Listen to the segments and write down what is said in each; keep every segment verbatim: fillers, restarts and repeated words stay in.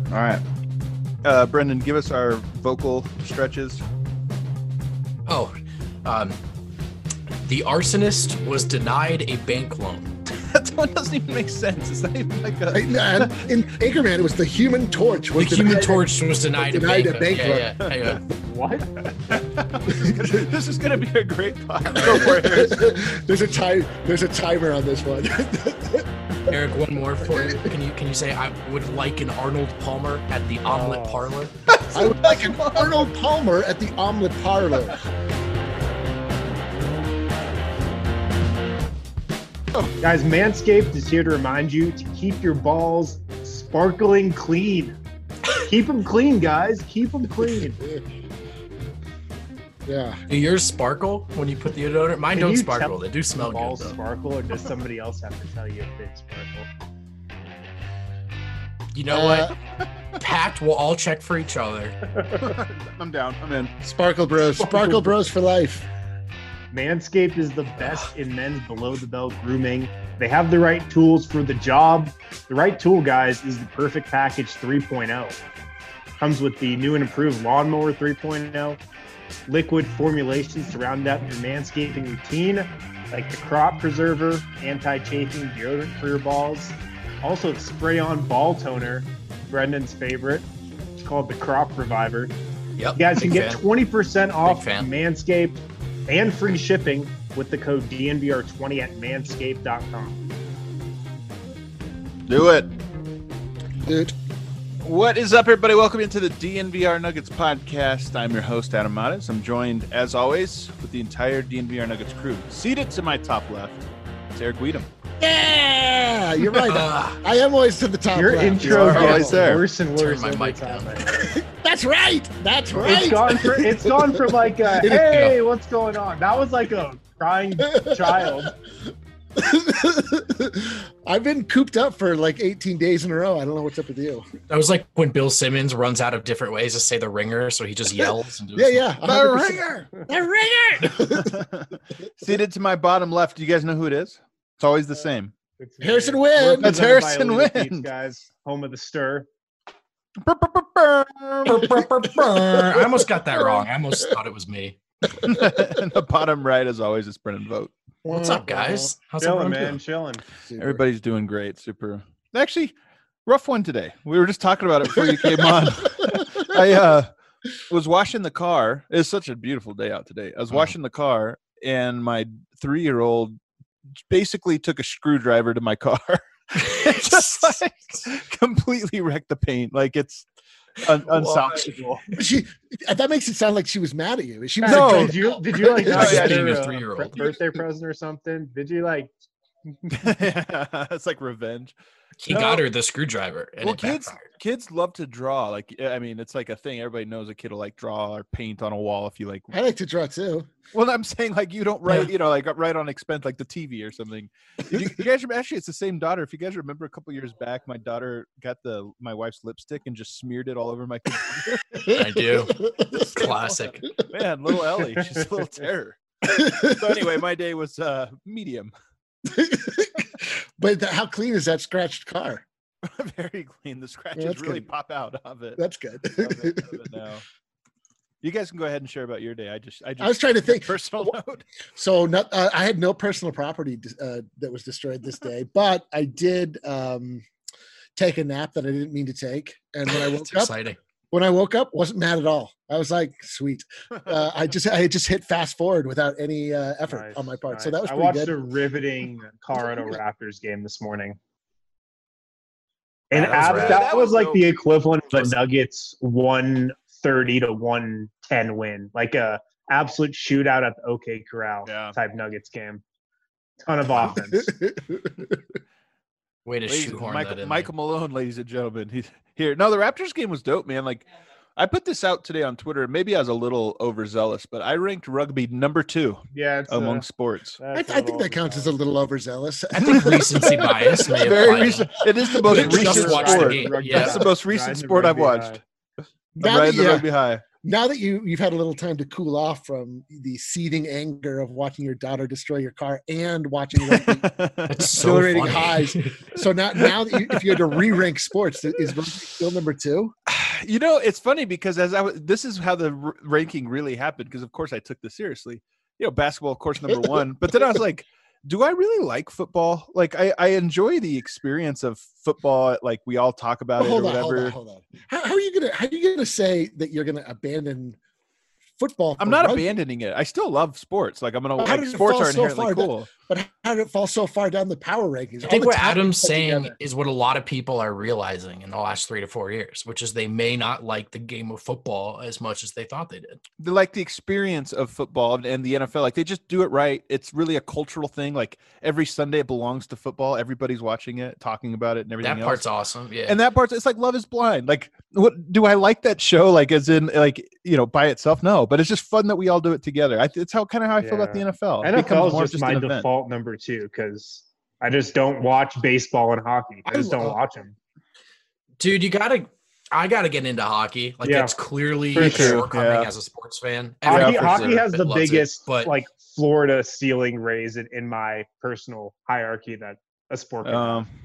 All right. Uh, Brendan, give us our vocal stretches. Oh, um, the arsonist was denied a bank loan. That one doesn't even make sense. It's not even like a... Right, and in Anchorman, it was the Human Torch. Was The Human Torch was denied, was denied a a bank bank loan. loan. Yeah, yeah, yeah. What? This is gonna be a great pod. Go for it. there's a time. There's a timer on this one. Eric, one more for you. Can you can you say I would like an Arnold Palmer at the Omelet Oh. Parlor? I would like an Arnold Palmer at the Omelet Parlor. Guys, Manscaped is here to remind you to keep your balls sparkling clean. Keep them clean, guys. Keep them clean. Yeah. Do yours sparkle when you put the deodorant? Mine Can don't you sparkle. tell They do smell good Balls though. sparkle, or does somebody else have to tell you if they sparkle? You know Uh, what? Pact, we'll all check for each other. I'm down. I'm in. Sparkle Bros. Sparkle Bros for life. Manscaped is the best in men's below-the-belt grooming. They have the right tools for the job. The right tool, guys, is the Perfect Package three point oh. Comes with the new and improved Lawnmower three point oh, liquid formulations to round out your manscaping routine, like the Crop Preserver, anti-chafing deodorant for your balls. Also, the spray-on ball toner, Brendan's favorite. It's called the Crop Reviver. Yep. You guys big can get fan. twenty percent off fan. Manscaped and free shipping with the code D N V R twenty at manscaped dot com. Do it. Dude. What is up, everybody? Welcome into the D N V R Nuggets podcast. I'm your host, Adam Mattes. I'm joined, as always, with the entire D N V R Nuggets crew. Seated to my top left, it's Eric Weedham. Yeah, you're right. Ah. I am always to the top Your left. intro are always gets there. worse and Turn worse. my every mic time. down. That's right. That's right. It's gone for it's gone from like a, It is- hey, what's going on? That was like a crying child. I've been cooped up for like eighteen days in a row. I don't know what's up with you. That was like when Bill Simmons runs out of different ways to say the ringer, so he just yells. And does Yeah, yeah. one hundred percent. The ringer. Seated to my bottom left, do you guys know who it is? It's always the same. It's Harrison we're Wind. That's represented by Harrison Elite Wind. Beats, guys. Home of the stir. I almost got that wrong. I almost thought it was me. And the bottom right, as always, is Brendan Vogt. What's up, guys? How's Chilling, everyone man, doing? chilling. Super. Everybody's doing great. Super. Actually, rough one today. We were just talking about it before you came on. I uh, was washing the car. It's such a beautiful day out today. I was Oh. washing the car, and my three-year-old basically took a screwdriver to my car. It just like completely wrecked the paint. Like it's un- unsalvageable. She that makes it sound like she was mad at you. She was No. like, Did you did you like Oh, get yeah, her being a a three-year-old. birthday present or something? Did you like? It's like revenge. He No. got her the screwdriver, and Well, it kids, backfired. kids love to draw. Like, I mean, it's like a thing. Everybody knows a kid will like draw or paint on a wall if you like. I like to draw too. Well, I'm saying like you don't write, Yeah. you know, like write on expense like the T V or something. Did you, you guys remember, actually, it's the same daughter. If you guys remember, a couple years back, my daughter got the my wife's lipstick and just smeared it all over my computer. I do. Classic. Man, little Ellie, she's a little terror. So anyway, my day was uh medium, But th- how clean is that scratched car? very clean. The scratches that's really good. pop out of it. That's good. Of it, of it now. You guys can go ahead and share about your day. I just, I just I was trying to think. personal note. So not, uh, I had no personal property uh, that was destroyed this day, but I did um, take a nap that I didn't mean to take. And when I woke It's up, exciting. when I woke up, wasn't mad at all. I was like, sweet. Uh, I just I just hit fast forward without any uh, effort Nice, on my part. So nice. that was I pretty watched good. a riveting Colorado Raptors game this morning. And Yeah, that was ab- rad. that, That was was like dope. the equivalent of Was- the Nuggets one thirty to one ten win, like a absolute shootout at the OK Corral Yeah. type Nuggets game. Ton of offense. Way to Ladies- shoehorn Michael, that in. Michael Malone, ladies and gentlemen, he's here. No, the Raptors game was dope, man. Like, I put this out today on Twitter. Maybe I was a little overzealous, but I ranked rugby number two Yeah, it's among uh, sports. I, that's a I think little that counts as a little overzealous. I think recency bias may Very apply. recent. It is the most Just recent watched the sport. game. Rugby Yeah. That's the most high. recent Riding the sport I've rugby watched. high. I'm That- riding the yeah. rugby high. now that you you've had a little time to cool off from the seething anger of watching your daughter destroy your car and watching rugby That's so exhilarating funny. highs. So now, now that you, if you had to re-rank sports, is rugby still number two? You know, it's funny because as I was, this is how the r- ranking really happened. Because of course I took this seriously. You know, basketball, of course, number one. But then I was like, do I really like football? Like, I, I enjoy the experience of football. Like we all talk about Well, it or hold on, whatever. hold on, hold on. How, how are you gonna how are you gonna say that you're gonna abandon football? I'm for not rugby? abandoning it. I still love sports. Like I'm gonna But how like did it sports fall are so inherently far down- cool. But how did it fall so far down the power rankings? I All think the what talent Adam's put saying together. is what a lot of people are realizing in the last three to four years, which is they may not like the game of football as much as they thought they did. They like the experience of football and- and the N F L. Like they just do it right. It's really a cultural thing. Like every Sunday it belongs to football. Everybody's watching it, talking about it, and everything That else. part's awesome. Yeah. And that part's it's like Love is Blind. Like, what do I like that show? Like, as in, like you know, by itself, no. But it's just fun that we all do it together. I, it's how kind of how I feel about the Yeah. N F L. It N F L becomes is more just, just my an event. default number two because I just don't watch baseball and hockey. I I just don't love- watch them. Dude, you gotta I gotta get into hockey. Like Yeah, that's clearly for a sure, shortcoming yeah. as a sports fan. Hockey, Every for hockey sure. has the loves it, biggest but like Florida ceiling raise in, in my personal hierarchy that a sport can Um, have.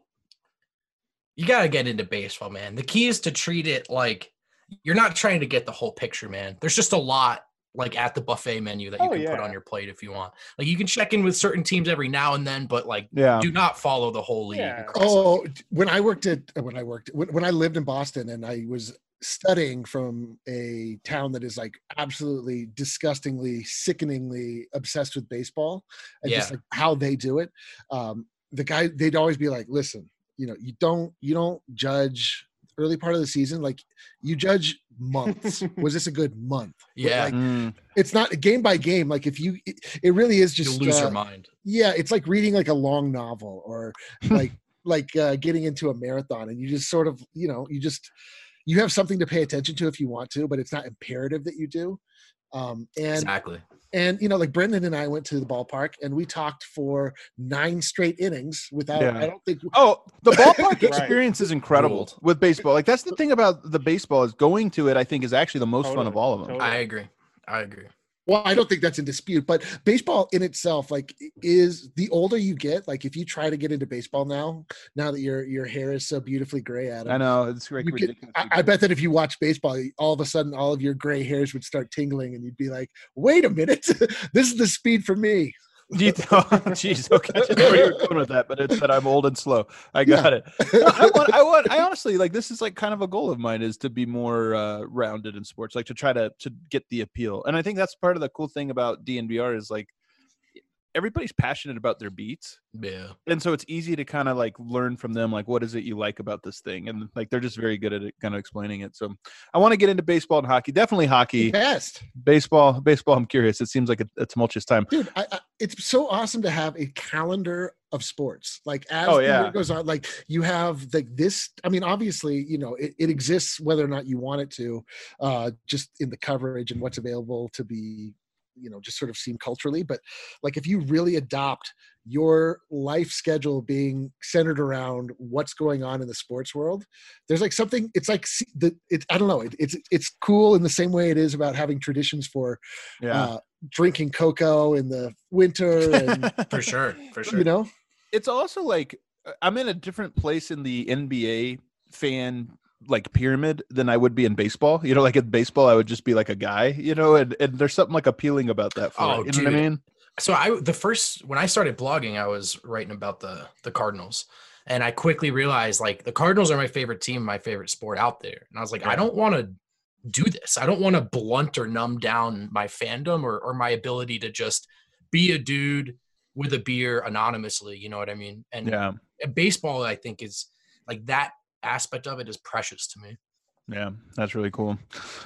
you gotta get into baseball, man. The key is to treat it like you're not trying to get the whole picture, man. There's just a lot like at the buffet menu that you Oh, can put yeah. on your plate if you want. Like you can check in with certain teams every now and then, but like yeah. do not follow the whole league. Yeah. across. Oh, when I worked at when I worked when, when I lived in Boston and I was studying from a town that is like absolutely disgustingly, sickeningly obsessed with baseball and just Yeah. like how they do it. Um, the guy they'd always be like, "Listen, you know, you don't you don't judge early part of the season. Like you judge months. Was this a good month? But, Yeah. like, Mm. it's not game by game. Like if you, it, it really is You just lose your uh, mind. yeah, it's like reading like a long novel or like like uh, getting into a marathon, and you just sort of you know you just you have something to pay attention to if you want to, but it's not imperative that you do. Um, and Exactly. and you know, like Brendan and I went to the ballpark and we talked for nine straight innings without. Yeah. I don't think. Oh, the ballpark Right. experience is incredible Ruled. with baseball. Like that's the thing about the baseball is going to it. I think is actually the most fun Totally, of all of them. totally. I agree. I agree. Well, I don't think that's in dispute, but baseball in itself, like, is the older you get, like, if you try to get into baseball now, now that your your hair is so beautifully gray, Adam, I know it's like you get, ridiculous. I, I bet that if you watch baseball, all of a sudden all of your gray hairs would start tingling, and you'd be like, "Wait a minute, this is the speed for me." Do you th- oh, jeez, okay, I didn't know where you were going with that, but it's that I'm old and slow. I got it. No, I want, I want, I honestly like this is like kind of a goal of mine is to be more uh, rounded in sports, like to try to to get the appeal. And I think that's part of the cool thing about D N V R is like everybody's passionate about their beats, Yeah. and so it's easy to kind of like learn from them, like what is it you like about this thing, and like they're just very good at it, kind of explaining it. So I want to get into baseball and hockey, definitely hockey, Best, baseball, baseball. I'm curious. It seems like a, a tumultuous time. dude. I, I, it's so awesome to have a calendar of sports. Like as Oh, the yeah. year goes on, like you have like this. I mean, obviously, you know, it, it exists whether or not you want it to, uh, just in the coverage and what's available to be, you know, just sort of seen culturally. But like if you really adopt your life schedule being centered around what's going on in the sports world, there's like something. It's like see- the. It's I don't know. It, it's it's cool in the same way it is about having traditions for. Yeah. Uh, drinking cocoa in the winter and For sure. For sure. you know It's also like uh, I'm in a different place in the N B A fan like pyramid than I would be in baseball. You know, like in baseball, I would just be like a guy, you know, and, and there's something like appealing about that. For Oh, it, you know what I dude. mean? So I the first when I started blogging, I was writing about the the Cardinals, and I quickly realized like the Cardinals are my favorite team, my favorite sport out there, and I was like, I don't want to do this. I don't want to blunt or numb down my fandom or or my ability to just be a dude with a beer anonymously. You know what I mean? And Yeah. baseball, I think, is like that aspect of it is precious to me. Yeah. That's really cool.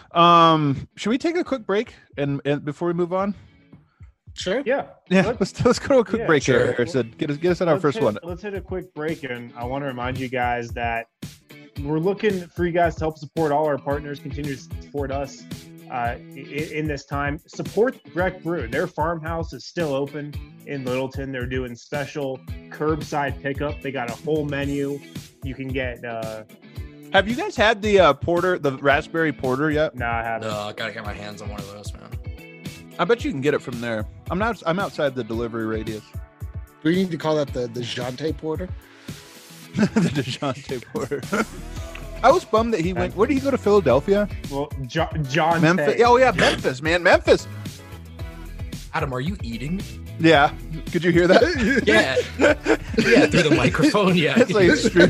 Um, should we take a quick break and, and before we move on? sure Yeah. Yeah. Let's- Let's, let's go to a quick yeah, break sure. here, Harrison. Get us, get us on our Let's first hit- one. Let's hit a quick break, and I want to remind you guys that we're looking for you guys to help support all our partners, continue to support us uh, in, in this time. Support Breck Brew. Their farmhouse is still open in Littleton. They're doing special curbside pickup. They got a whole menu. You can get uh, Have you guys had the uh, porter, the raspberry porter yet? No, I haven't. No, I gotta get my hands on one of those, man. I bet you can get it from there. I'm not. I'm outside the delivery radius. Do we need to call that the the Jante Porter? The DeJounte Porter. I was bummed that he went. Where did he go to Philadelphia? Well, jo- John Memphis. Tay. Oh yeah, Memphis, man, Memphis. Adam, are you eating? Yeah. Could you hear that? Yeah. Yeah, through the microphone. Yeah. It's like extreme.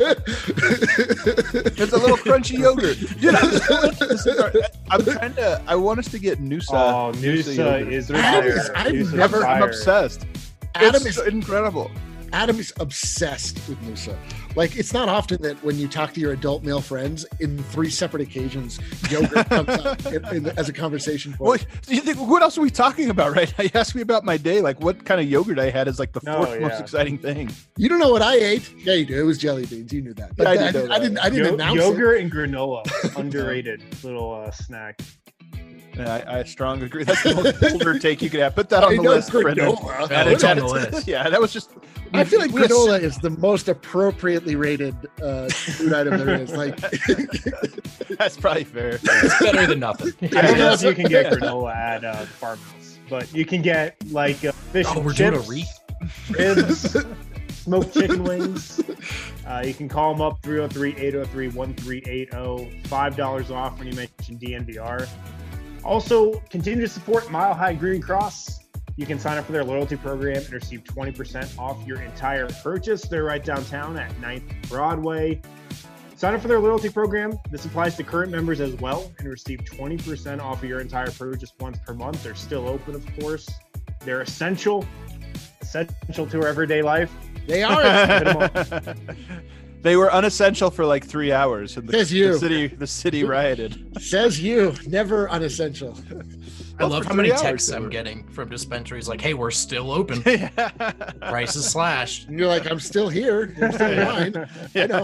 It's a little crunchy yogurt. Dude, I'm, so I'm trying to. I want us to get Noosa. Oh, Noosa Noosa yogurt. is Adam fire. is- I've Noosa's Never. I'm fire. obsessed. Adam It's is so incredible. Adam is obsessed with Noosa. Like, it's not often that when you talk to your adult male friends, in three separate occasions, yogurt comes up in, in, as a conversation point. What do you think? What else are we talking about? Right? You asked me about my day. Like, what kind of yogurt I had is like the No, fourth most yeah. exciting thing. You don't know what I ate? Yeah, you do. It was jelly beans. You knew that. But Yeah, I I, did know didn't, I that. didn't. I didn't Yo- announce yogurt and granola, underrated little uh, snack. Yeah, I, I strongly agree. That's the most older take you could have. Put that on I the know list, Brendan. granola. Yeah, Add it's it- on add the it to- list. Yeah, that was just. I feel like we had- granola is the most appropriately rated uh, food item there is. Like, That's probably fair. It's better than nothing. I don't know if you can get granola at uh, the farmhouse, but you can get like uh, fish Oh, and we're doing a chips, re. ribs, smoked chicken wings. Uh, you can call them up three oh three, eight oh three, one three eight oh. five dollars off when you mention D N V R. Also, continue to support Mile High Green Cross. You can sign up for their loyalty program and receive twenty percent off your entire purchase. They're right downtown at ninth Broadway. Sign up for their loyalty program. This applies to current members as well and receive twenty percent off of your entire purchase once per month. They're still open, of course. They're essential, essential to our everyday life. they are. Hit 'em up. They were unessential for like three hours. And the, Says you. the city, the city rioted. Says you. Never unessential. I Well, love for how many three hours texts they I'm were. getting from dispensaries like, hey, we're still open. Yeah. Prices slashed. And you're like, I'm still here. I'm still in line. I know.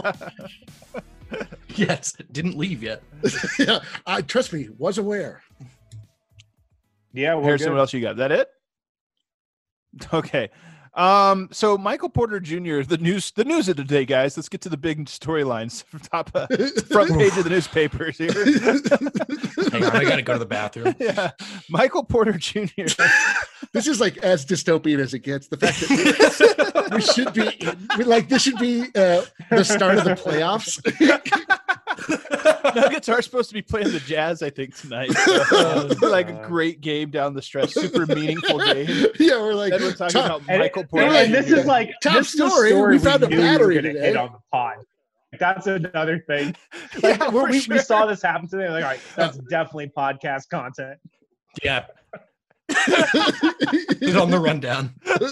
Yes, didn't leave yet. Yeah, I trust me. Was aware. Yeah, we're Harrison, good. what else you got? Is that it? Okay. Um, so Michael Porter Junior, the news, the news of the day, guys. Let's get to the big storylines. Top uh, front page of the newspapers here. Hang on, I gotta go to the bathroom. Yeah, Michael Porter Junior This is like as dystopian as it gets. The fact that we, we should be we, like this should be uh, the start of the playoffs. Nuggets are supposed to be playing the Jazz, I think, tonight. So, like a great game down the stretch, super meaningful game. Yeah, we're like And we're talking top, about And, Michael and- Porter. and this Junior. is like Top this is a story, we found a knew we were battery gonna today. hit on the pod. That's another thing. Yeah, Like, for we, we sure. saw this happen today. Like, all right, that's definitely podcast content. Yeah. It's on the rundown.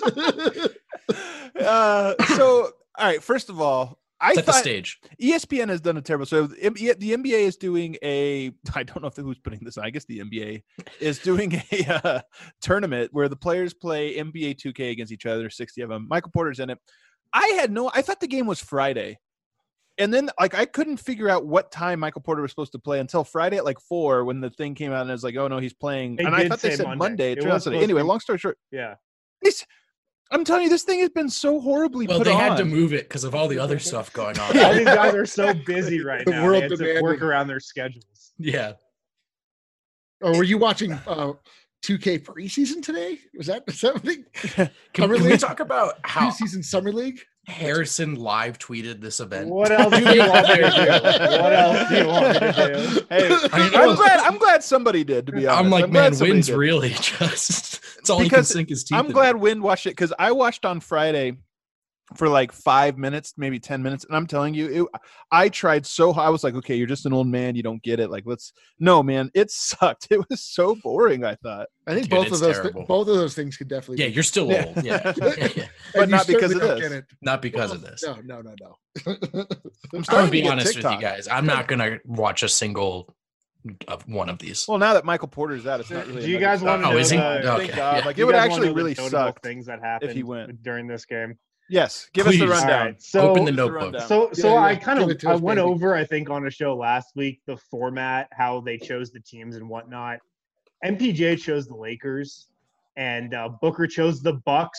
Uh, so, all right. First of all, I Set the thought stage. E S P N has done a terrible. So the N B A the N B A is doing a. I don't know if who's putting this on. I guess the N B A is doing a uh, tournament where the players play N B A two K against each other. sixty of them. Michael Porter's in it. I had no. I thought the game was Friday, and then like I couldn't figure out what time Michael Porter was supposed to play until Friday at like four when the thing came out and it was like, oh no, he's playing. They and I did thought they say said Monday. Monday. It It turned out was Sunday. supposed Anyway, to be- long story short, Yeah. this. I'm telling you, this thing has been so horribly Well, put they on. had to move it because of all the other stuff going on. All these guys are so busy right The now. world They had to demanded. work around their schedules. Yeah. Oh, were you watching uh, two K preseason today? Was that something? Can, Summer can we League? talk about how Preseason summer league? Harrison live tweeted this event? What else do you want me to do? What else do you want me to do? Hey, I mean, I'm glad. I'm glad somebody did. To be honest, I'm like, glad man, somebody Wynn's did. really just. It's all he can Because sink his teeth I'm into. glad Wynn watched it because I watched on Friday for like five minutes, maybe ten minutes, and I'm telling you, it, I tried so hard. I was like, okay, you're just an old man, you don't get it. Like, let's no, man, it sucked. It was so boring. I thought, I think Dude, both it's of those terrible. both of those things could definitely. Yeah, be- you're still Yeah. old. Yeah. Yeah, yeah. but and you not because of certainly don't this. get it. Not because of this. No, no, no, no. I'm I'm starting gonna to be get honest TikTok. with you guys. I'm not gonna watch a single of one of these. Well, now that Michael Porter's out, it's not really. Do you a guys Nuggets want stock. to Oh, is he? know Thank the, Okay, God. yeah. Like do it you would guys actually wanna know the really notable suck. things that happened went. during this game? Yes, give us Please. the All rundown. All right, so Open the Give us the notebook. rundown. So, so Yeah, I yeah. kind Give of it to I us, went baby. over, I think, on a show last week the format, how they chose the teams and whatnot. M P J chose the Lakers, and uh, Booker chose the Bucks.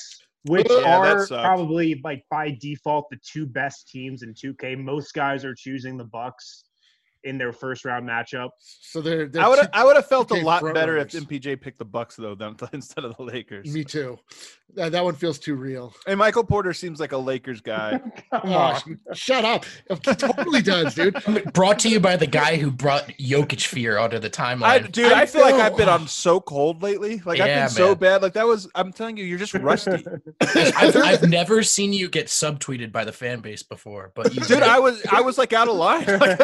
which Yeah, that are sucks. probably like by default the two best teams in two K. Most guys are choosing the Bucks in their first round matchup. So they're, they're I would two- I would have felt a two K lot front better if runners. M P J picked the Bucks though than, instead of the Lakers. Me too. That, that one feels too real. And Michael Porter seems like a Lakers guy. Come Oh, on. shut up. It totally does, dude. Brought to you by the guy who brought Jokic fear onto the timeline. I, dude, I, I feel like know. I've been on so cold lately. Like I've Yeah, been so man. bad. Like that was. I'm telling you, you're just rusty, I've, I've never seen you get subtweeted by the fan base before, but you dude. did. I was I was like out of line. Like,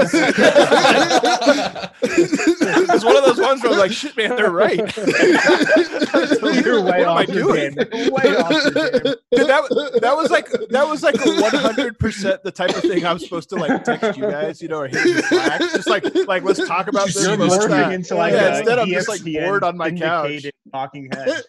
it's one of those ones where I'm like, shit, man, they're right. You're way What am I off your doing? game. Way off your game. Dude, that that was like that was like one hundred percent the type of thing I'm supposed to like text you guys, you know, or hit you Slack. Just like like let's talk about this. You're let's morphing not- into like yeah, a instead I'm just like E S P N bored on my couch. syndicated talking head.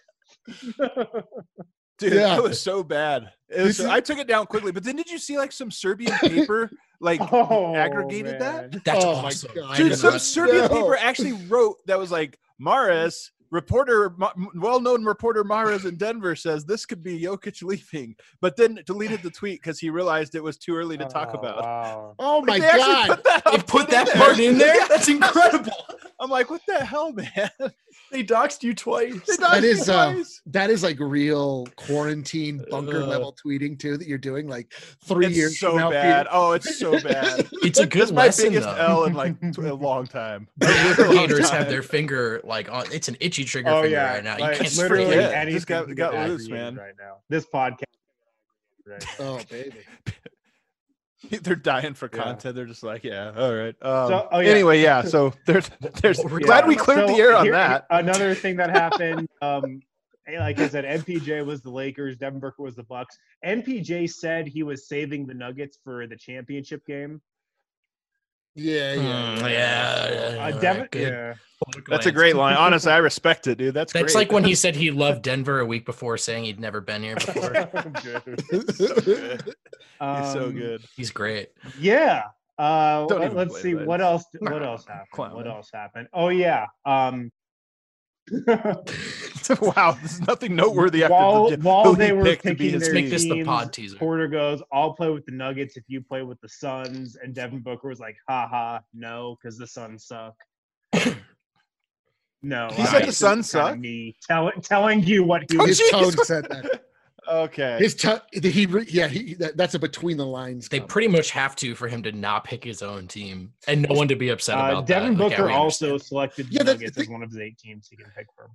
Dude, Yeah. that was so bad. It was, This is- I took it down quickly, but then did you see like some Serbian paper like Oh, aggregated that? man. That's Oh my awesome. God. I Dude, did some not- Serbian No. paper actually wrote that was like Maris, reporter, Ma- well-known reporter Maris in Denver says this could be Jokic leaving, but then deleted the tweet because he realized it was too early to talk Oh, about. wow. Oh my Like, they actually God. put that, They put that part in there? That's incredible. I'm like, what the hell, man? They doxed you twice. They That doxed is, me uh, twice. That is like real quarantine bunker Uh. level tweeting too that you're doing like three It's years so from now. bad. Peter. Oh, it's so bad. It's a good It's my lesson, biggest though. L in like tw- a long time. A long Aggregators have time. their finger like on. It's an itchy trigger Oh finger yeah, right now. You like, can't literally forget. Yeah, anything just got- can got get loose, aggregated man. right now. This podcast. Right. Oh baby. They're dying for Yeah. content. They're just like, yeah, all right. Um, So- oh, yeah. Anyway, yeah. So there's, there's. Yeah. Glad we cleared So the air on here- that. Another thing that happened, um, like I said, M P J was the Lakers, Devin Booker was the Bucks. M P J said he was saving the Nuggets for the championship game. Yeah, yeah. Mm, yeah. yeah, yeah, Uh, yeah, Devin, good yeah. That's a great line. Honestly, I respect it, dude. That's That's great. like when he said he loved Denver a week before, saying he'd never been here before. He's so good. He's so Um, good. He's great. Yeah. Uh, Don't let, even let's play see that. what else. What Nah, else happened? clown. What else happened? Oh yeah. Um, Wow, there's nothing noteworthy after while the, while who they he were picked to be picking his their Make this the teams, pod teaser. Porter goes, "I'll play with the Nuggets if you play with the Suns," and Devin Booker was like, "Ha ha, no, because the Suns suck." No, He I- said the it's Suns kinda suck? Me tell, telling you what he Oh, was. His jeez. tone said that. Okay. His tone. He. re- Yeah. He. That, that's a between the lines. They comment. pretty much have to for him to not pick his own team and no one to be upset Uh, about Devin that. Like, yeah, Booker we also understand. selected the Yeah, that's- Nuggets as one of his eight teams he can pick from.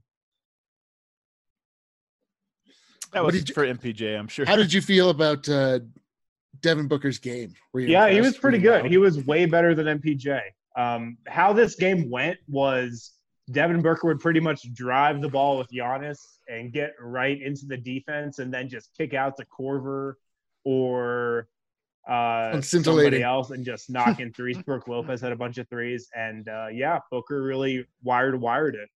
That What was did you- for M P J, I'm sure. How did you feel about uh, Devin Booker's game? Were you Yeah, he was impressed? pretty Were you good. wowed? He was way better than M P J. Um, how this game went was Devin Booker would pretty much drive the ball with Giannis and get right into the defense and then just kick out to Corver or uh, somebody Scintillating. else and just knock in threes. Brooke Lopez had a bunch of threes. And uh, yeah, Booker really wired wired it.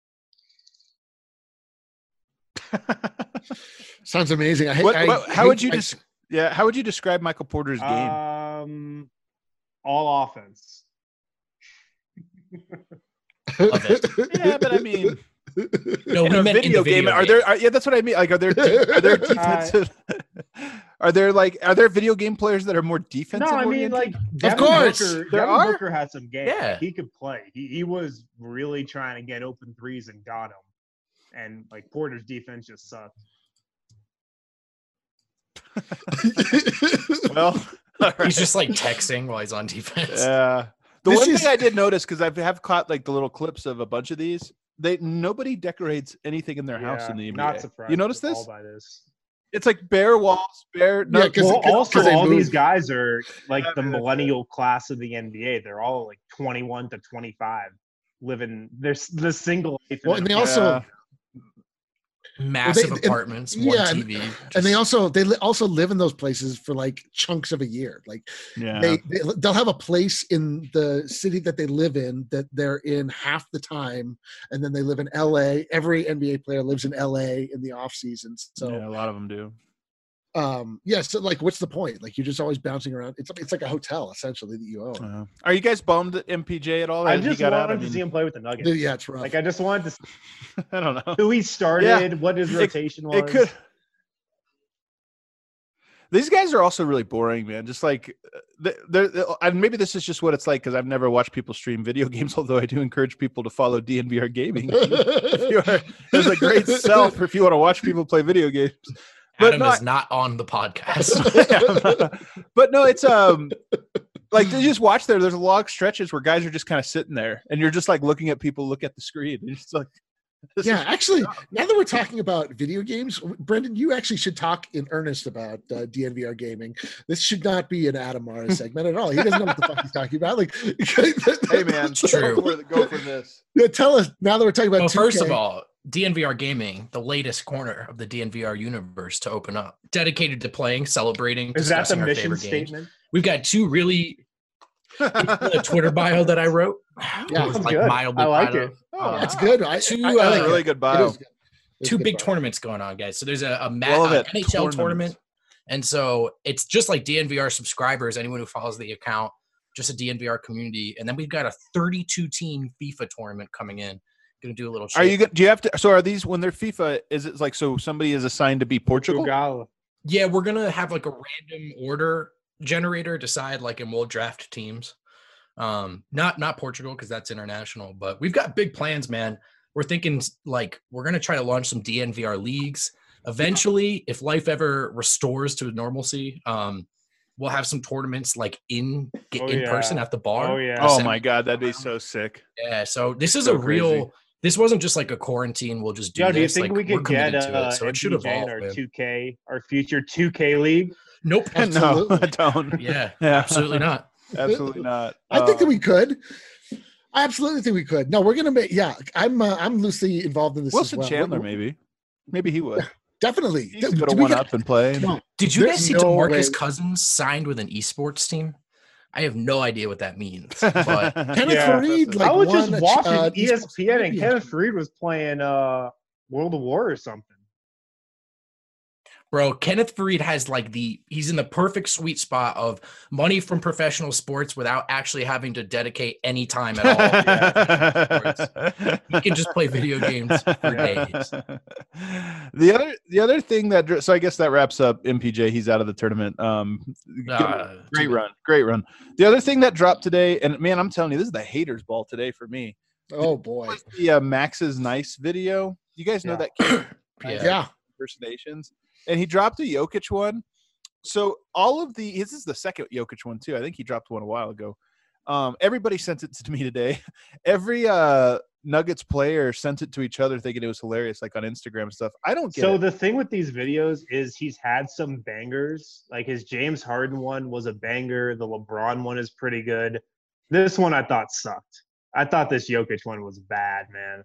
Sounds amazing. I, hate- What- I, what- how hate- would you I- just? Yeah, how would you describe Michael Porter's game? Um, all offense. Love it. yeah, but I mean, No, in we a meant in video the game, video are there? Are, yeah, that's what I mean. Like, are there? de- Are there defensive? are there like? Are there video game players that are more defensive? No, I mean, oriented? like, Devin course, Booker, there Devin are. Booker had some game. Yeah. He could play. He, he was really trying to get open threes and got them. And, like, Porter's defense just sucked. well, all right. He's just like texting while he's on defense. Yeah. The This one is- thing I did notice, because I have caught like the little clips of a bunch of these, they nobody decorates anything in their house Yeah, in the N B A. Not surprised. You notice at this? all by this. It's like bare walls, bare. No, Yeah, 'cause- Well, cause- also, 'cause they all these moved. guys are like Yeah, the man, that's millennial class of the N B A. They're all like twenty-one to twenty-five, living. There's the single life. in Well, and an they also Yeah. Massive Well, they- apartments, and- one yeah, T V. and just- they also they li- also live in those places for like chunks of a year. Like yeah. they, they they'll have a place in the city that they live in that they're in half the time, and then they live in L A. Every N B A player lives in L A in the off season. So yeah, a lot of them do. um yeah, so like what's the point? Like you're just always bouncing around. It's it's like a hotel essentially that you own. Uh, are you guys bummed at M P J at all? I that he just got wanted out? I to mean, see him play with the Nuggets. Yeah, it's rough. Like I just wanted to see I don't know. who he started, what his It- rotation was. It could. These guys are also really boring, man. Just like, they're, they're, and maybe this is just what it's like because I've never watched people stream video games. Although I do encourage people to follow D N V R Gaming. If you are, there's a great sell for if you want to watch people play video games. But Adam no, is not on the podcast. yeah, but no, it's um, like you just watch there. There's long stretches where guys are just kind of sitting there, and you're just like looking at people look at the screen. And it's like. This yeah, is- actually, now that we're talking about video games, Brendan, you actually should talk in earnest about uh, D N V R gaming. This should not be an Adam Mara segment at all. He doesn't know what the fuck he's talking about. Like, hey man, True. Go for, go for this. Yeah, tell us now that we're talking about. Well, first two K. of all, D N V R Gaming, the latest corner of the D N V R universe to open up, dedicated to playing, celebrating, Is that the discussing our mission favorite games. statement? We've got two really the Twitter bio that I wrote. Yeah, was that's like good. mildly I like proud it. of. Oh, Um, That's good. I, Two, I, I uh, like really it. good It bio. is good. It's Two good big bio. tournaments going on, guys. So there's a, a, ma- Well, uh, that N H L tournaments. tournament. And so it's just like D N V R subscribers, anyone who follows the account, just a D N V R community. And then we've got a thirty-two team FIFA tournament coming in. Going to do a little Are you? shake. go- Do you have to? So are these when they're FIFA? Is it like so somebody is assigned to be Portugal? Portugal. Yeah, we're going to have like a random order generator decide like and we'll draft teams. Um, not not Portugal because that's international, but we've got big plans, man. We're thinking like we're gonna try to launch some D N V R leagues. Eventually, if life ever restores to normalcy, um, we'll have some tournaments like in Oh, in yeah. person at the bar. Oh yeah. Oh Send- my god, that'd be so sick. Yeah, so this is So a real. crazy. This wasn't just like a quarantine. We'll just do Yo, do you this. think like, we we're could get committed to uh, it, so it should M P J in evolve. our man. two K, our future two K league? Nope. No, Absolutely. I don't. Yeah, Yeah. absolutely not. Absolutely not. I think that Um, we could. I absolutely think we could. No, we're gonna make. Yeah, I'm. Uh, I'm loosely involved in this. Wilson as well. Chandler, We're- maybe. Maybe he would. Definitely. He's Do going to we one get- up and play. No, Did you There's guys see no DeMarcus way- Cousins signed with an esports team? I have no idea what that means, but Kenneth Yeah. Fareed, like I was won just a ch- watching uh, E S P N and championship. Kenneth Fareed was playing uh, World of War or something. bro, Kenneth Fareed has like the he's in the perfect sweet spot of money from professional sports without actually having to dedicate any time at all. He can just play video games for days. The other, the other thing that, dr- so I guess that wraps up M P J. He's out of the tournament. Um, good- Uh, great too- run, great run. The other thing that dropped today, and man, I'm telling you, this is the haters' ball today for me. Oh boy. Was the uh, Max's Nice video? You guys know Yeah. that kid? Yeah. Yeah. Impersonations, and he dropped a Jokic one. So all of the this is the second Jokic one too. I think he dropped one a while ago. Um, everybody sent it to me today. Every uh, Nuggets player sent it to each other, thinking it was hilarious, like on Instagram and stuff. I don't get So it. the thing with these videos is he's had some bangers. Like his James Harden one was a banger. The LeBron one is pretty good. This one I thought sucked. I thought this Jokic one was bad, man.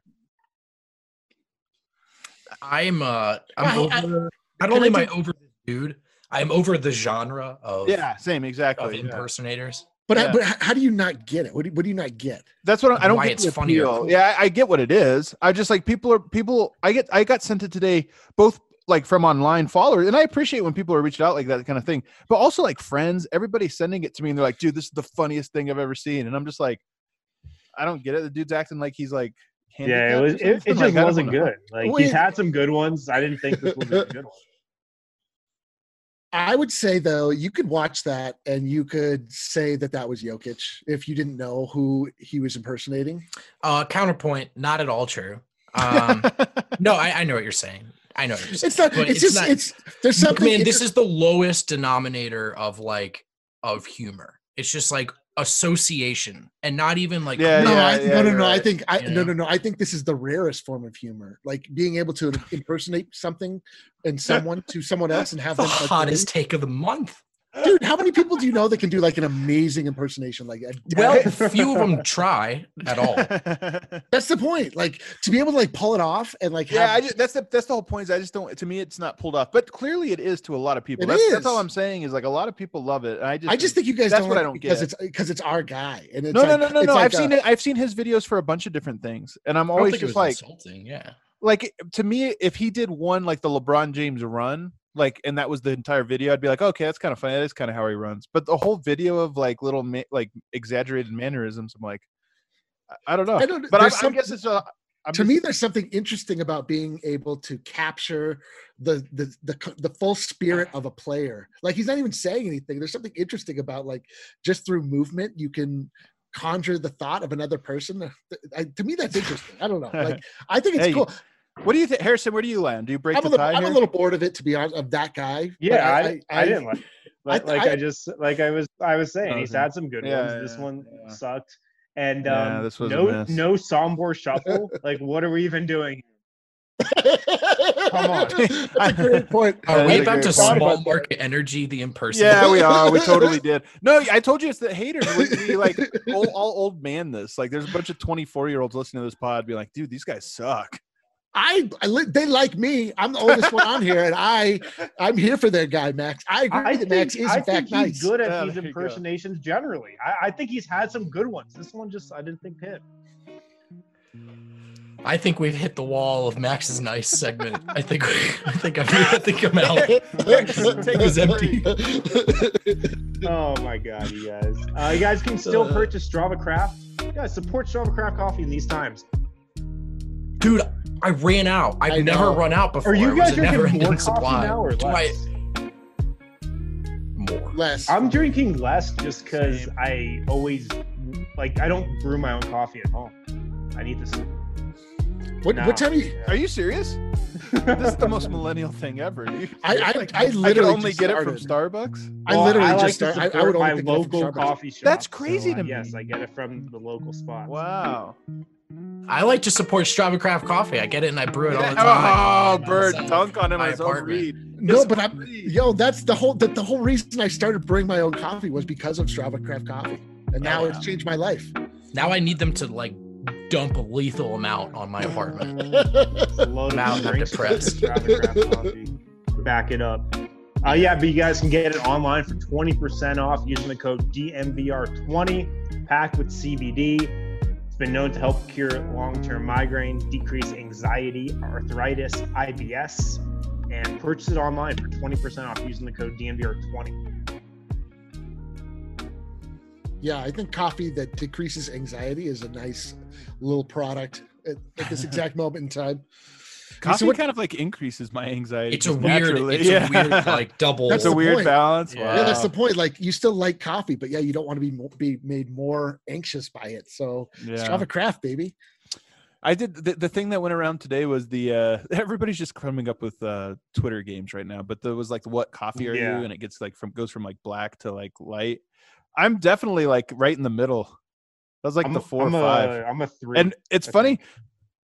I'm uh I'm Well, I- over not can only I am I do- over the dude, I'm over the genre of, Yeah, same of exactly. Yeah. impersonators. But Yeah. but h- how do you not get it? What do, what do you not get? That's what I, I don't Why get. it's the funny or appeal. cool. Yeah, I, I get what it is. I just like people are people. I get. I got sent it today, both like from online followers, and I appreciate when people are reaching out like that kind of thing. But also like friends, everybody's sending it to me, and they're like, "Dude, this is the funniest thing I've ever seen," and I'm just like, I don't get it. The dude's acting like he's like. Yeah, it was. It, it handicapped or just something. Like, I don't wasn't know. good. Like Wait. he's had some good ones. I didn't think this was a good one. I would say though, you could watch that and you could say that that was Jokic if you didn't know who he was impersonating. Uh counterpoint, not at all true. Um no, I, I know what you're saying. I know what you're saying. It's not. But It's, just. not- it's there's Look, something. man, it's this is the lowest denominator of like of humor. It's just like association and not even like Yeah, no, yeah, I, yeah, no, no, you're no. I right. think I You no, know? no, no. I think this is the rarest form of humor, like being able to impersonate something and someone to someone else and have the them. like, hottest take of the month. dude. How many people do you know that can do like an amazing impersonation? Like, a, Well, few of them try at all. that's the point. Like to be able to like pull it off and like Yeah, have, I just, that's the that's the whole point. Is I just don't. To me, it's not pulled off, but clearly it is to a lot of people. It That's, that's is. all I'm saying. Is like a lot of people love it. And I just, I just think you guys that's don't what I like don't it because get. it's because it's our guy and it's no, no, like- no, no, it's no. like I've a- seen it. I've seen his videos for a bunch of different things, and I'm I don't always think it just was like, insulting. Yeah. like to me, if he did one like the LeBron James run, like, and that was the entire video, I'd be like, okay, that's kind of funny. That is kind of how he runs. But the whole video of like little ma- like exaggerated mannerisms, I'm like, I, I don't know. I don't. But I, there's I some- guess it's a, I'm to just- me, there's something interesting about being able to capture the, the the the full spirit of a player. Like he's not even saying anything. There's something interesting about like just through movement you can conjure the thought of another person. I, to me, that's interesting. I don't know. Like I think it's Hey, cool. What do you think, Harrison? Where do you land? Do you break I'm a the little, tie I'm a here? little bored of it, to be honest, of that guy. but Yeah, I, I, I, didn't like. Like, I- like I- I just like I was I was saying, Oh, he's okay. had some good Yeah, ones. This yeah, one yeah. sucked, and Yeah, um, this was a no miss. no Sombor shuffle. Like, what are we even doing? Come on. That's a great point. Are That we is a about great to point. small market energy the impersonal? Yeah, we are. We totally did. No, I told you it's the haters. We, we like all, all old man this. Like, there's a bunch of twenty-four year olds listening to this pod, be like, dude, these guys suck. I, I li- they like me. I'm the oldest one on here, and I I'm here for their guy Max. I agree I that Max think is I in think fact he's nice. good at Yeah, these there you go. impersonations generally. I, I think he's had some good ones. This one just I didn't think hit. I think we've hit the wall of Max's nice segment. I think I think I'm I think I'm out. It was empty. Oh my god, you guys! Uh, you guys can still Uh. purchase Strava Craft. Yeah, support Strava Craft coffee in these times. Dude, I ran out. I've I never know. run out before. Are you It was guys a never drinking more ending coffee supply. now or Do less? I- More. Less. I'm drinking less just because I always like I don't brew my own coffee at home. I need this. What, now. what time are you? Are you serious? This is the most millennial thing ever. You, I I, like, I I could literally only just get it from started. Starbucks. I Well, literally I like just to started. I, I support would only my pick it up from local Starbucks. coffee shop. That's crazy so, to uh, me. Yes, I get it from the local spots. Wow. I like to support Strava Craft Coffee. I get it and I brew it all the Oh, time. Bird, Outside dunk on him my on his own apartment. read. No, It's but I'm free. yo. That's the whole. The, the whole reason I started brewing my own coffee was because of Strava Craft Coffee, and now Yeah. it's changed my life. Now I need them to like dump a lethal amount on my apartment. A load of Now I'm drinks depressed. from Strava Craft Coffee. Back it up. Uh, yeah, but you guys can get it online for twenty percent off using the code D M V R twenty, packed with C B D. It's been known to help cure long-term migraine, decrease anxiety, arthritis, I B S, and purchase it online for twenty percent off using the code D M V R twenty. Yeah, I think coffee that decreases anxiety is a nice little product at, at this exact moment in time. Coffee So what- kind of like increases my anxiety. It's a just weird, naturally. it's a weird like double. That's It's a the weird point. balance. Yeah. Yeah, that's the Wow. point. Like you still like coffee, but yeah, you don't want to be mo- be made more anxious by it. So Yeah. Strava Craft, baby. I did the, the thing that went around today was the uh everybody's just coming up with uh Twitter games right now, but there was like what coffee are Yeah. you, and it gets like from goes from like black to like light. I'm definitely like right in the middle. That was like I'm, the four I'm or five. A, I'm a three. And it's I funny. think.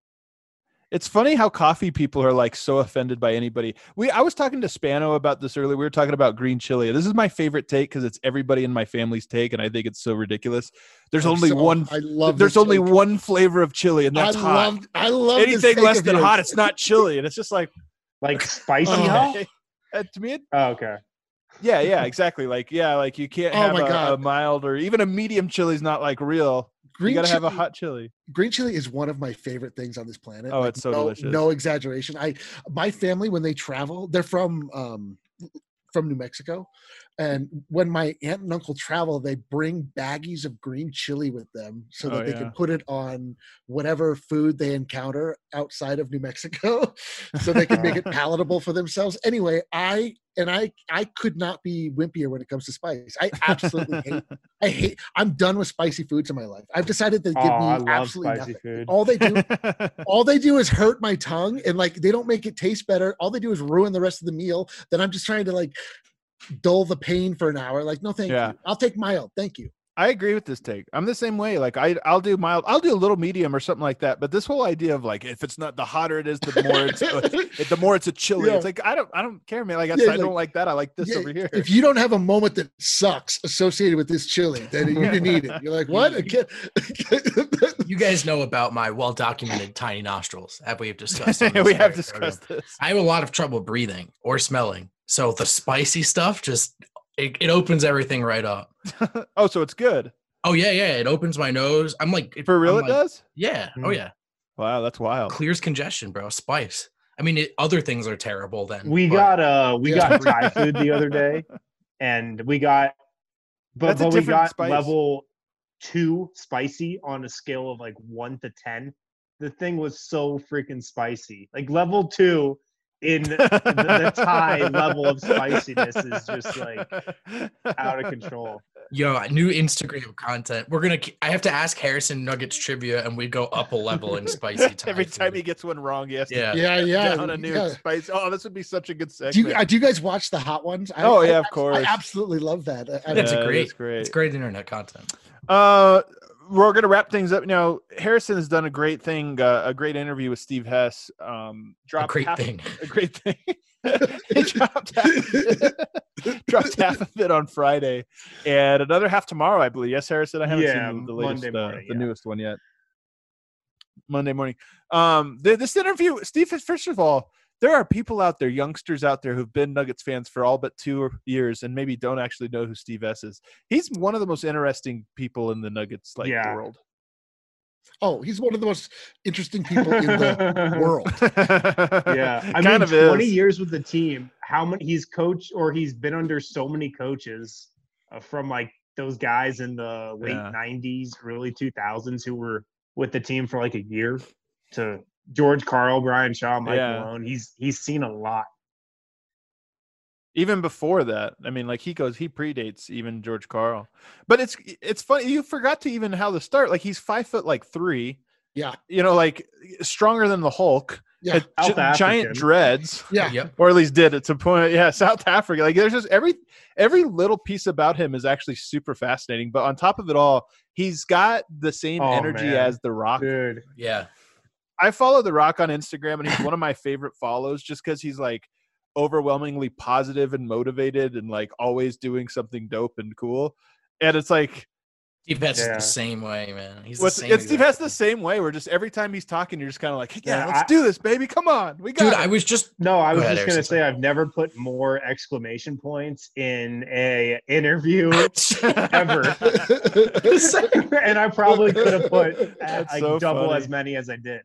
It's funny how coffee people are like so offended by anybody. We I was talking to Spano about this earlier. We were talking about green chili. This is my favorite take because it's everybody in my family's take, and I think it's so ridiculous. There's I'm only so- one. I love. There's this only take. one flavor of chili, and that's I hot. love. I love this Anything take less of than yours. hot, it's not chili, and it's just like Like spicy Oh. hot? uh, to me. It, Oh, okay. yeah, yeah, exactly. Like yeah, like you can't Oh have my a, a God. mild or even a medium chili is not like real. Green you gotta have a chili- hot chili. Green chili is one of my favorite things on this planet. Oh, Like, it's so no, delicious. No exaggeration. I my family when they travel, they're from um from New Mexico, and when my aunt and uncle travel, they bring baggies of green chili with them so that Oh, they yeah. can put it on whatever food they encounter outside of New Mexico, so they can make it palatable for themselves. Anyway, I and I I could not be wimpier when it comes to spice. I absolutely hate. I hate. I'm done with spicy foods in my life. I've decided to Oh, give I me love absolutely spicy nothing. food. All they do, all they do is hurt my tongue, and like they don't make it taste better. All they do is ruin the rest of the meal. Then I'm just trying to like dull the pain for an hour. Like, no, thank Yeah. you. I'll take mild. Thank you. I agree with this take. I'm the same way. Like I, I'll do mild. I'll do a little medium or something like that. But this whole idea of like, if it's not the hotter it is, the more it's it, the more it's a chili. Yeah. It's like I don't, I don't care, man. Like I, Yeah, I like- don't like that. I like this Yeah, over here. If you don't have a moment that sucks associated with this chili, then you didn't eat it. You're like, what? I can't- You guys know about my well-documented tiny nostrils, as we've discussed. on this we have very discussed program. this. I have a lot of trouble breathing or smelling, so the spicy stuff just it, it opens everything right up. Oh, so it's good Oh yeah, yeah, it opens my nose. I'm like for real. I'm It like, does. Yeah. Oh Mm. yeah. Wow, that's wild. Clears congestion, bro. Spice. I mean, it, other things are terrible. Then We but- got uh we Yeah. got Thai food the other day, and we got but, That's a but we different got spice. level two spicy on a scale of like one to ten. the thing was so freaking spicy. Like level two in the, the Thai level of spiciness is just like out of control. Yo, new Instagram content. We're gonna. I have to ask Harrison Nuggets trivia, and we go up a level in spicy. Thai Every food. time he gets one wrong, he has to Yeah. Yeah, yeah. down a new yeah. spice. Oh, this would be such a good segment. Do you, uh, do you guys watch the hot ones? I, Oh, I- yeah, of I- course. I absolutely love that. I- I- That's Yeah, a great, that's great. It's great internet content. Uh, we're gonna wrap things up now. Harrison has done a great thing, uh, a great interview with Steve Hess. Um, A dropped great half, thing. a great thing. He dropped half, dropped half of it on Friday, and another half tomorrow, I believe. Yes, Harrison. I haven't Yeah, seen the, the latest, Monday uh, morning, the yeah. newest one yet. Monday morning. Um, th- this interview, Steve. First of all, there are people out there, youngsters out there, who've been Nuggets fans for all but two years, and maybe don't actually know who Steve S is. He's one of the most interesting people in the Nuggets like Yeah. world. oh, he's one of the most interesting people in the world. Yeah, I kind mean, of twenty is. years with the team. How many? He's coached or he's been under so many coaches uh, from like those guys in the late Yeah. nineties, early two thousands who were with the team for like a year. To George Karl, Brian Shaw, Mike Yeah. Malone. He's he's seen a lot. Even before that, I mean, like he goes, he predates even George Karl. But it's it's funny. You forgot to even how to start. Like he's five foot like three. Yeah. You know, like stronger than the Hulk. Yeah. had South gi- giant African. dreads. Yeah. Yep. Or at least did at some point. Yeah, South Africa. Like there's just every every little piece about him is actually super fascinating. But on top of it all, he's got the same Oh, energy man. as The Rock. Dude. Yeah. I follow The Rock on Instagram, and he's one of my favorite follows just because he's like overwhelmingly positive and motivated and like always doing something dope and cool. And it's like Steve Hess is Yeah. the same way, man. He's the what's same. and Steve exact has the way. same way where just every time he's talking, you're just kind of like, yeah, Yeah, let's I- do this, baby. Come on. We got Dude, it. I was just No, I Go was ahead, just gonna Harrison. say I've never put more exclamation points in a interview ever. And I probably could have put uh, That's like so double funny. as many as I did.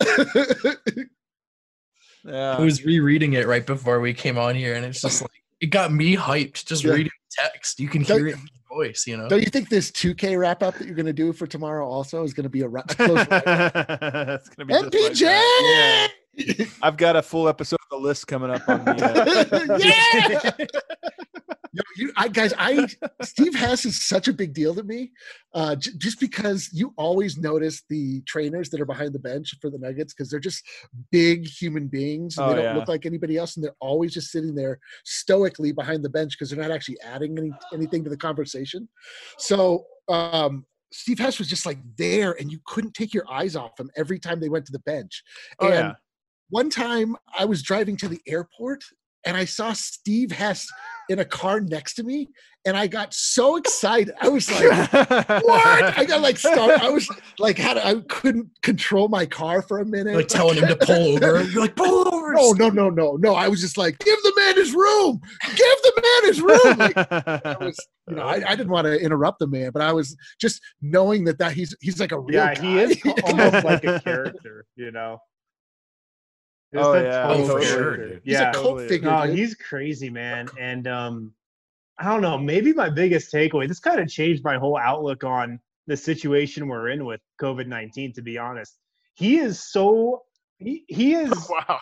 yeah. I was rereading it right before we came on here, and it's just like it got me hyped just Yeah. reading the text. You can Don't- hear it in his voice, you know. Don't you think this two K wrap up that you're going to do for tomorrow also is going to be a, ra- a close wrap up? It's gonna be just like M P J! that. Yeah. I've got a full episode of the list coming up on the uh, Yeah! No, you, I, guys, I Steve Hess is such a big deal to me, uh, j- just because you always notice the trainers that are behind the bench for the Nuggets because they're just big human beings. And Oh, they don't yeah. look like anybody else, and they're always just sitting there stoically behind the bench because they're not actually adding any, anything to the conversation. So um, Steve Hess was just like there, and you couldn't take your eyes off him every time they went to the bench. Oh, and yeah. one time I was driving to the airport and I saw Steve Hess in a car next to me, and I got so excited. I was like, what? I got like start. I was like, had I couldn't control my car for a minute. Like telling him to pull over. You're like, pull over. no, no, no, no, no. I was just like, give the man his room. Give the man his room. Like, I was, you know, I, I didn't want to interrupt the man, but I was just knowing that that he's he's like a real Yeah, guy. he is almost like a character, you know. Just Oh, a yeah. total Oh, for character. sure, dude. He's Yeah. a cult Totally. figure. No, dude. he's crazy, man. And um, I don't know, maybe my biggest takeaway, this kind of changed my whole outlook on the situation we're in with COVID nineteen, to be honest. He is so he, he is Wow.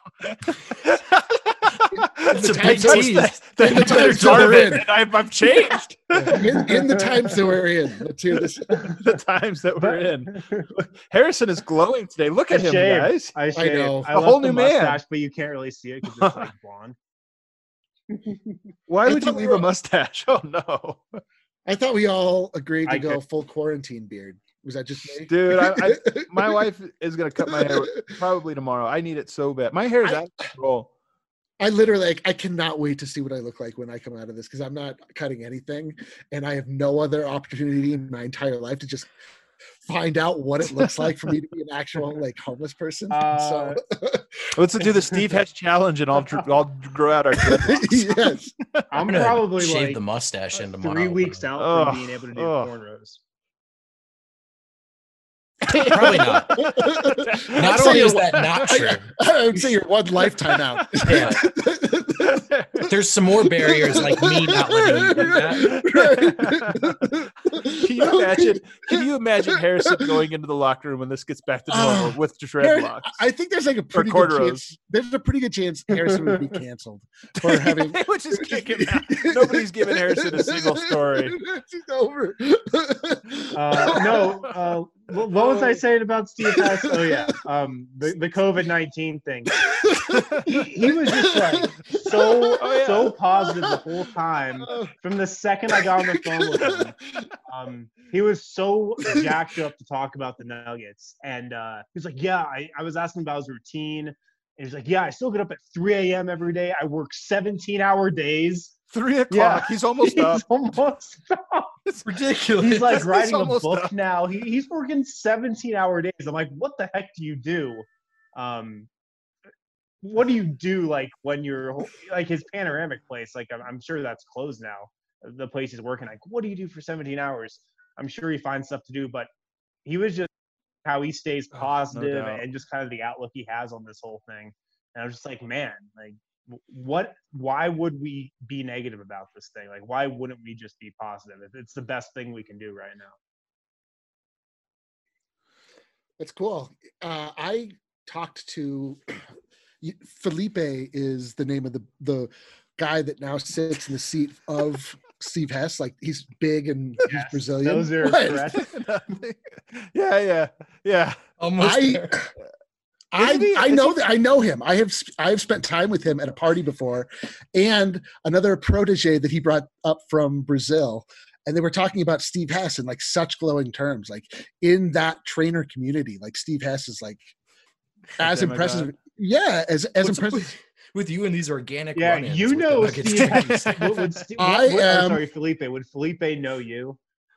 It's a I big noticed tease. that. In the That times part that of we're it, in. and I've, I've changed in, in the times that we're in. Let's hear this. the times that we're but- in. Harrison is glowing today. Look at I him, shaved. guys. I shaved. know. I A left whole the new man. mustache, but you can't really see it because it's like blonde. Why I would you thought we leave were- a mustache? Oh no, I thought we all agreed to I go could- full quarantine beard. Was that just me? dude. I, I, my wife is gonna cut my hair probably tomorrow. I need it so bad. My hair is I- out of control. I literally, like, I cannot wait to see what I look like when I come out of this because I'm not cutting anything, and I have no other opportunity in my entire life to just find out what it looks like for me to be an actual like homeless person. Uh, so Let's do the Steve Hess challenge, and I'll dr- I'll grow out our dreadlocks. yes, I'm I'm gonna probably shave like the mustache in tomorrow. three weeks out Ugh, from being able to do ugh. cornrows. Probably not. Not say only is you're- that not true. I would say you're one lifetime out. Yeah. There's some more barriers like me not letting you do that. Can you imagine? Can you imagine Harrison going into the locker room when this gets back to normal Uh, with There- dreadlocks? I think there's like a pretty good corduroys. chance. There's a pretty good chance Harrison would be canceled for having. They would just kick him out. Nobody's giving Harrison a single story. It's over. Uh, no, uh, what, what was I saying about Steve Hess? Oh yeah, um, the the COVID nineteen thing. He, he was just like so Oh, yeah. so positive the whole time. From the second I got on the phone with him, um, he was so jacked up to talk about the Nuggets, and uh, he was like, "Yeah, I, I was asking about his routine." And he's like, "Yeah, I still get up at three a.m. every day. I work seventeen-hour days." Three o'clock. Yeah. He's almost He's up. almost up. It's ridiculous. He's like He's writing a almost book up. now. He, he's working seventeen-hour days. I'm like, what the heck do you do? Um, what do you do like when you're like his panoramic place? Like I'm, I'm sure that's closed now. The place he's working. Like, what do you do for seventeen hours? I'm sure he finds stuff to do, but he was just how he stays Oh, no positive doubt. and just kind of the outlook he has on this whole thing. And I was just like, man, like what why would we be negative about this thing? Like why wouldn't we just be positive? It's the best thing we can do right now. That's cool. Uh, I talked to Felipe is the name of the the guy that now sits in the seat of Steve Hess. Like he's big and he's Yes, Brazilian. those are What? correct. yeah, yeah, yeah. Almost I, there. I, Isn't he- I is know he- that I know him. I have sp- I have spent time with him at a party before, and another protege that he brought up from Brazil, and they were talking about Steve Hess in like such glowing terms, like in that trainer community. Like Steve Hess is like as Damn, my impressive. God. Yeah, as as What's up impressive. with, with you and these organic Yeah, run-ins you with the know Nuggets Steve trainers? Hess. Would, would Steve, I what, what, am- I'm sorry, Felipe. Would Felipe know you?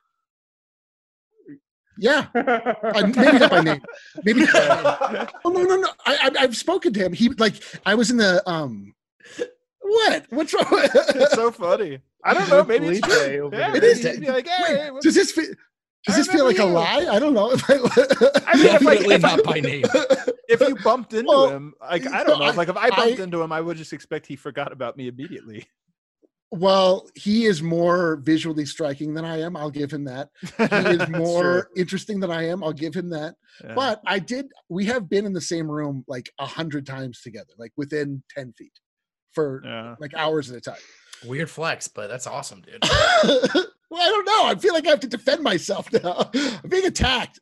Yeah, uh, maybe not by name. Maybe. Oh no, no, no. I, I I've spoken to him. He like I was in the um. What? What's wrong? It's so funny. I don't know. Maybe it's Felipe true. over Yeah, here. It is. maybe he'd be like, hey, Wait, does this feel? Does I this feel like remember a you. lie? I don't know. I mean, if, like, Definitely if I- not by name. if you bumped into Well, him, like I don't know, I- like if I bumped I- into him, I would just expect he forgot about me immediately. Well, he is more visually striking than I am. I'll give him that. He is That's more true. interesting than I am. I'll give him that. Yeah. But I did. We have been in the same room like a hundred times together, like within ten feet, for yeah. like hours at a time. Weird flex, but that's awesome, dude. Well, I don't know. I feel like I have to defend myself now. I'm being attacked.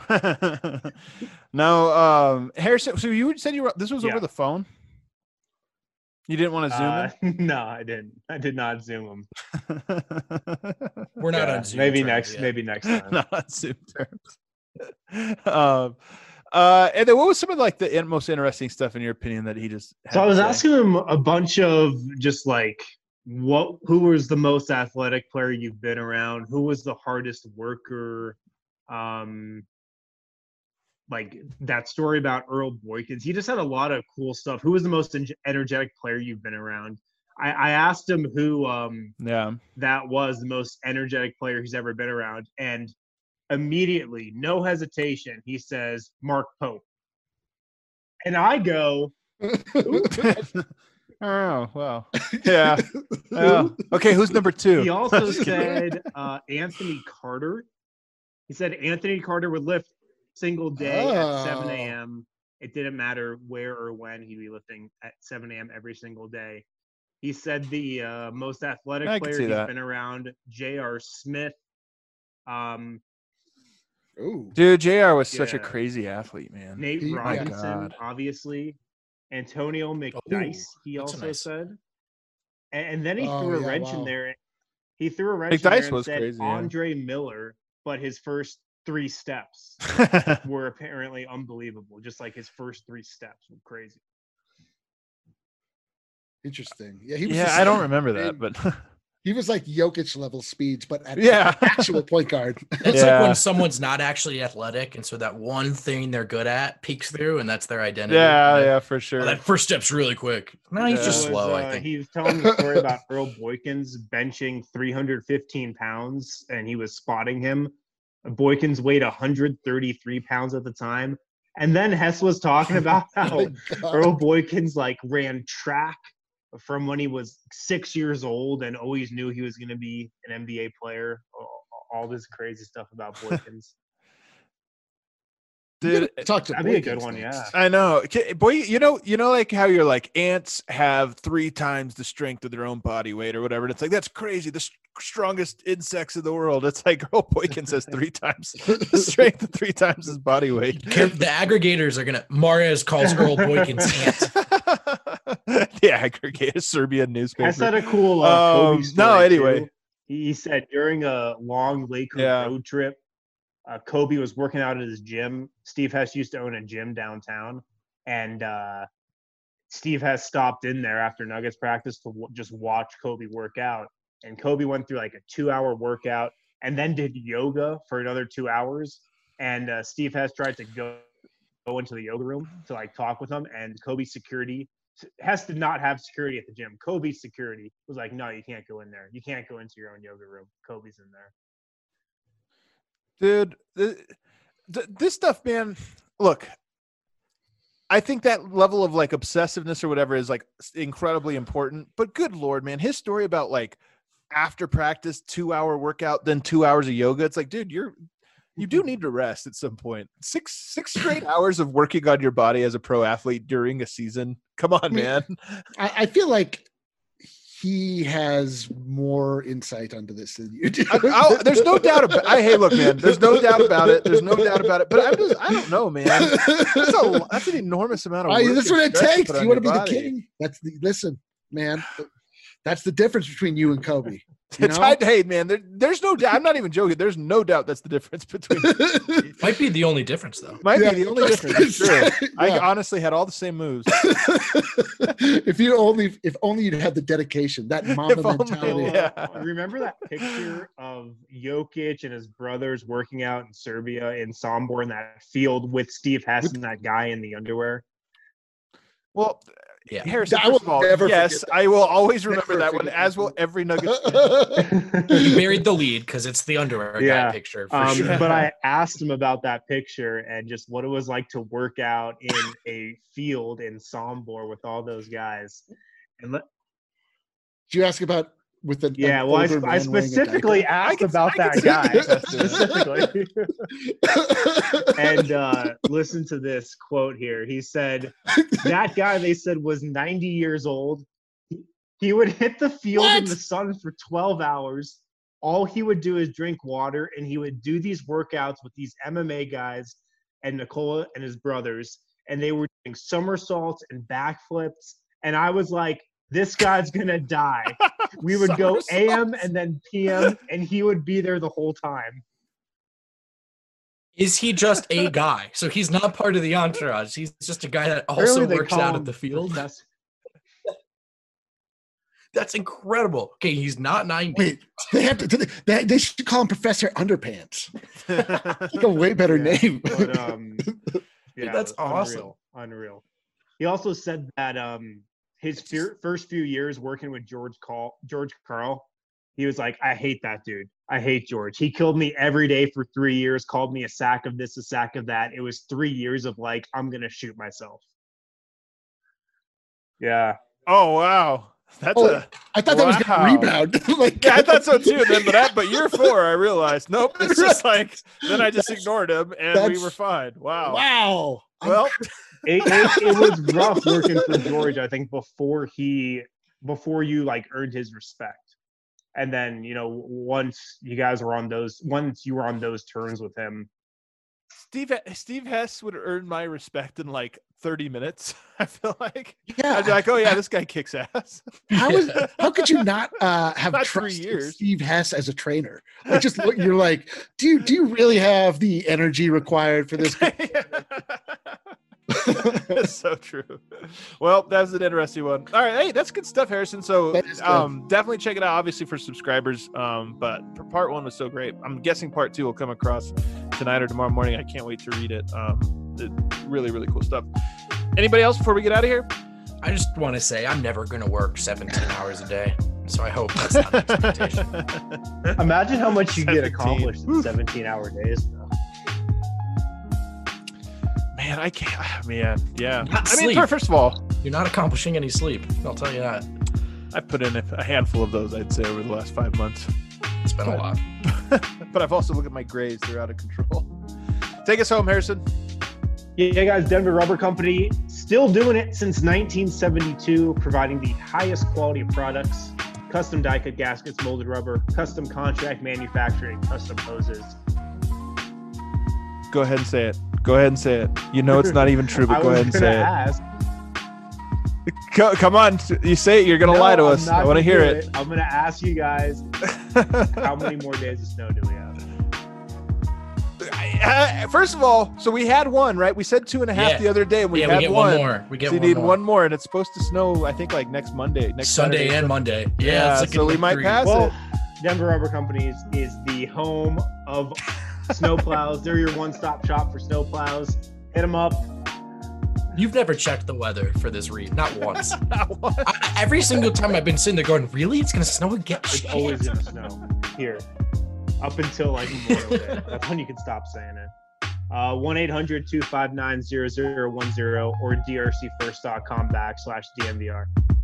no, um, Harrison. So you said you were. This was Yeah. over the phone. You didn't want to zoom Uh, no, I didn't. I did not zoom him. in. We're not Yeah, on Zoom maybe terms next. yet. Maybe next time. Not on Zoom terms. um, uh, and then what was some of like the in- most interesting stuff in your opinion that he just? Had So I to was say? asking him a bunch of just like what who was the most athletic player you've been around, who was the hardest worker, um like that story about Earl Boykins. He just had a lot of cool stuff. Who was the most en- energetic player you've been around? I, I asked him who um Yeah. that was the most energetic player he's ever been around, and immediately, no hesitation, he says Mark Pope. And I go, Oh well, yeah. Yeah. Okay, who's number two? he also Just kidding. said uh, Anthony Carter. He said Anthony Carter would lift single day at seven Oh. a.m. It didn't matter where or when he'd be lifting at seven a.m. every single day. He said the uh, most athletic I can player see he's that. been around, J R. Smith. Um, Ooh. Dude, J R was such a Yeah. crazy athlete, man. Nate He- my Robinson, God. obviously. Antonio McDyess, he that's a also nice- said. And, and then he Oh, threw a yeah, wrench in wow. there. He threw a wrench in McDyess there and was said crazy, yeah. Andre Miller, but his first three steps were apparently unbelievable. Just like his first three steps were crazy. Interesting. Yeah, he was yeah, just- I don't remember that, but He was like Jokic level speeds, but at Yeah. actual point guard. It's Yeah. like when someone's not actually athletic, and so that one thing they're good at peeks through, and that's their identity. yeah, And yeah, for oh, sure. that first step's really quick. No, he's Yeah. just It was, slow. uh, I think. He was telling the story about Earl Boykins benching three hundred fifteen pounds, and he was spotting him. Boykins weighed one hundred thirty-three pounds at the time. And then Hess was talking about how Oh my God. Earl Boykins like ran track from when he was six years old and always knew he was going to be an N B A player. All this crazy stuff about Boykins. Dude, talk to that'd be a good one, yeah. I know, boy. You know, you know, like how you're like ants have three times the strength of their own body weight or whatever. And it's like that's crazy. The st- strongest insects in the world. It's like Earl Boykins has three times the strength of three times his body weight. The aggregators are gonna. Marius calls Earl Boykins ant. The aggregator, Serbian newspaper. I said a cool uh, Kobe um, story no, anyway. Too. He said during a long Laker Yeah. road trip, uh, Kobe was working out at his gym. Steve Hess used to own a gym downtown, and uh, Steve Hess stopped in there after Nuggets practice to w- just watch Kobe work out. And Kobe went through like a two-hour workout and then did yoga for another two hours. And uh, Steve Hess tried to go, go into the yoga room to like talk with him, and Kobe's security Hess did not have security at the gym. Kobe's security was like, no, you can't go in there. You can't go into your own yoga room. Kobe's in there. Dude, th- th- this stuff, man, look, I think that level of like obsessiveness or whatever is like incredibly important, but good Lord, man, his story about like after practice, two hour workout, then two hours of yoga. It's like, dude, you're, you do need to rest at some point. Six, six straight hours of working on your body as a pro athlete during a season. Come on, man. I, I feel like he has more insight onto this than you do. I, I, there's no doubt about. I hey, look, man. There's no doubt about it. There's no doubt about it. But I'm just, I don't know, man. That's a that's an enormous amount of work. I, that's what it takes. To You want to be body. the king? That's the listen, man. That's the difference between you and Kobe. You It's know? hard, hey, man. There, there's no doubt. I'm not even joking. There's no doubt that's the difference between. Might be the only difference, though. Might Yeah. be the only difference. It's true. I Yeah. honestly had all the same moves. if you only, if only you'd had the dedication, that mama If only, mentality. yeah. Remember that picture of Jokic and his brothers working out in Serbia in Sombor in that field with Steve Hess and that guy in the underwear? Well, Yeah. Harrison, I will first of all, never yes, forget that. I will always remember Never that one, forget as that will one. every Nuggets fan. You buried the lead because it's the underwear Yeah. guy picture. For Um, sure. but I asked him about that picture and just what it was like to work out in a field in Sombor with all those guys. And let, Did you ask about with the yeah, well, I, I specifically asked can- about I that can guy see that. specifically. And uh, listen to this quote here. He said, that guy they said was ninety years old. He, he would hit the field in What? the sun for twelve hours. All he would do is drink water, and he would do these workouts with these M M A guys and Nikola and his brothers, and they were doing somersaults and backflips. And I was like, this guy's gonna die. We would go A M and then P M, and he would be there the whole time. Is he just a guy? So he's not part of the entourage. He's just a guy that also Apparently they works call out him at the field. Professor. That's incredible. Okay, he's not ninety. Wait, they have to. They, they should call him Professor Underpants. Like a way better Yeah, name. But, um, yeah, That's it was awesome. Unreal, unreal. He also said that um, his fear, first few years working with George Carl, George Carl, he was like, I hate that dude. I hate George. He killed me every day for three years, called me a sack of this, a sack of that. It was three years of like, I'm going to shoot myself. Yeah. Oh wow, that's Oh, a. I thought that was Wow. going to rebound. Like, Yeah, I thought so too. Then, but that, but year four, I realized, nope. It's just like then I just ignored him, and we that's- were fine. Wow. Wow. I'm Well, It, it, it was rough working for George, I think, before he, before you like earned his respect. And then, you know, once you guys were on those, once you were on those terms with him, Steve Steve Hess would earn my respect in like thirty minutes. I feel like yeah. I'd be like, oh yeah, this guy kicks ass. How is how could you not uh, have Not three trusted years. Steve Hess as a trainer? Like just look, you're like, do you do you really have the energy required for this? That's so true. Well, that was an interesting one. All right, hey, that's good stuff, Harrison. So, That is good. um, definitely check it out. Obviously for subscribers, um, but part one was so great. I'm guessing part two will come across tonight or tomorrow morning. I can't wait to read it. Um, it, really, really cool stuff. Anybody else before we get out of here? I just want to say I'm never going to work seventeen hours a day. So I hope that's not an expectation. imagine how much you get seventeen. accomplished in seventeen hour days. Man, I can't. Man, yeah. Not I mean, sleep. first of all, You're not accomplishing any sleep. I'll tell you that. I put in a, a handful of those, I'd say, over the last five months. It's been a lot. But I've also looked at my grades; they're out of control. Take us home, Harrison. Yeah, guys, Denver Rubber Company, still doing it since nineteen seventy-two, providing the highest quality of products, custom die-cut gaskets, molded rubber, custom contract manufacturing, custom hoses. Go ahead and say it. Go ahead and say it. You know it's not even true, but go ahead and say ask, it. Co- come on, you say it. You're gonna no, lie to I'm us. not I want to gonna hear do it. I'm gonna ask you guys, how many more days of snow do we have? Uh, First of all, so we had one, right? We said two and a half Yeah. the other day, and we yeah, had we get one. one more. We get so you one need more. one more, and it's supposed to snow. I think like next Monday, next Sunday Saturday. and Monday. Yeah, Yeah, it's looking so we like might three. pass Well, it. Denver Rubber Company is, is the home of snowplows. They're your one-stop shop for snowplows. Hit them up. You've never checked the weather for this read, not once. What? I, every single time I've been sitting there going, really? It's gonna snow again? It's Shit. always gonna snow here up until like Memorial Day. That's when you can stop saying it. Uh, one eight hundred two five nine zero zero one zero or d r c first dot com backslash D M V R.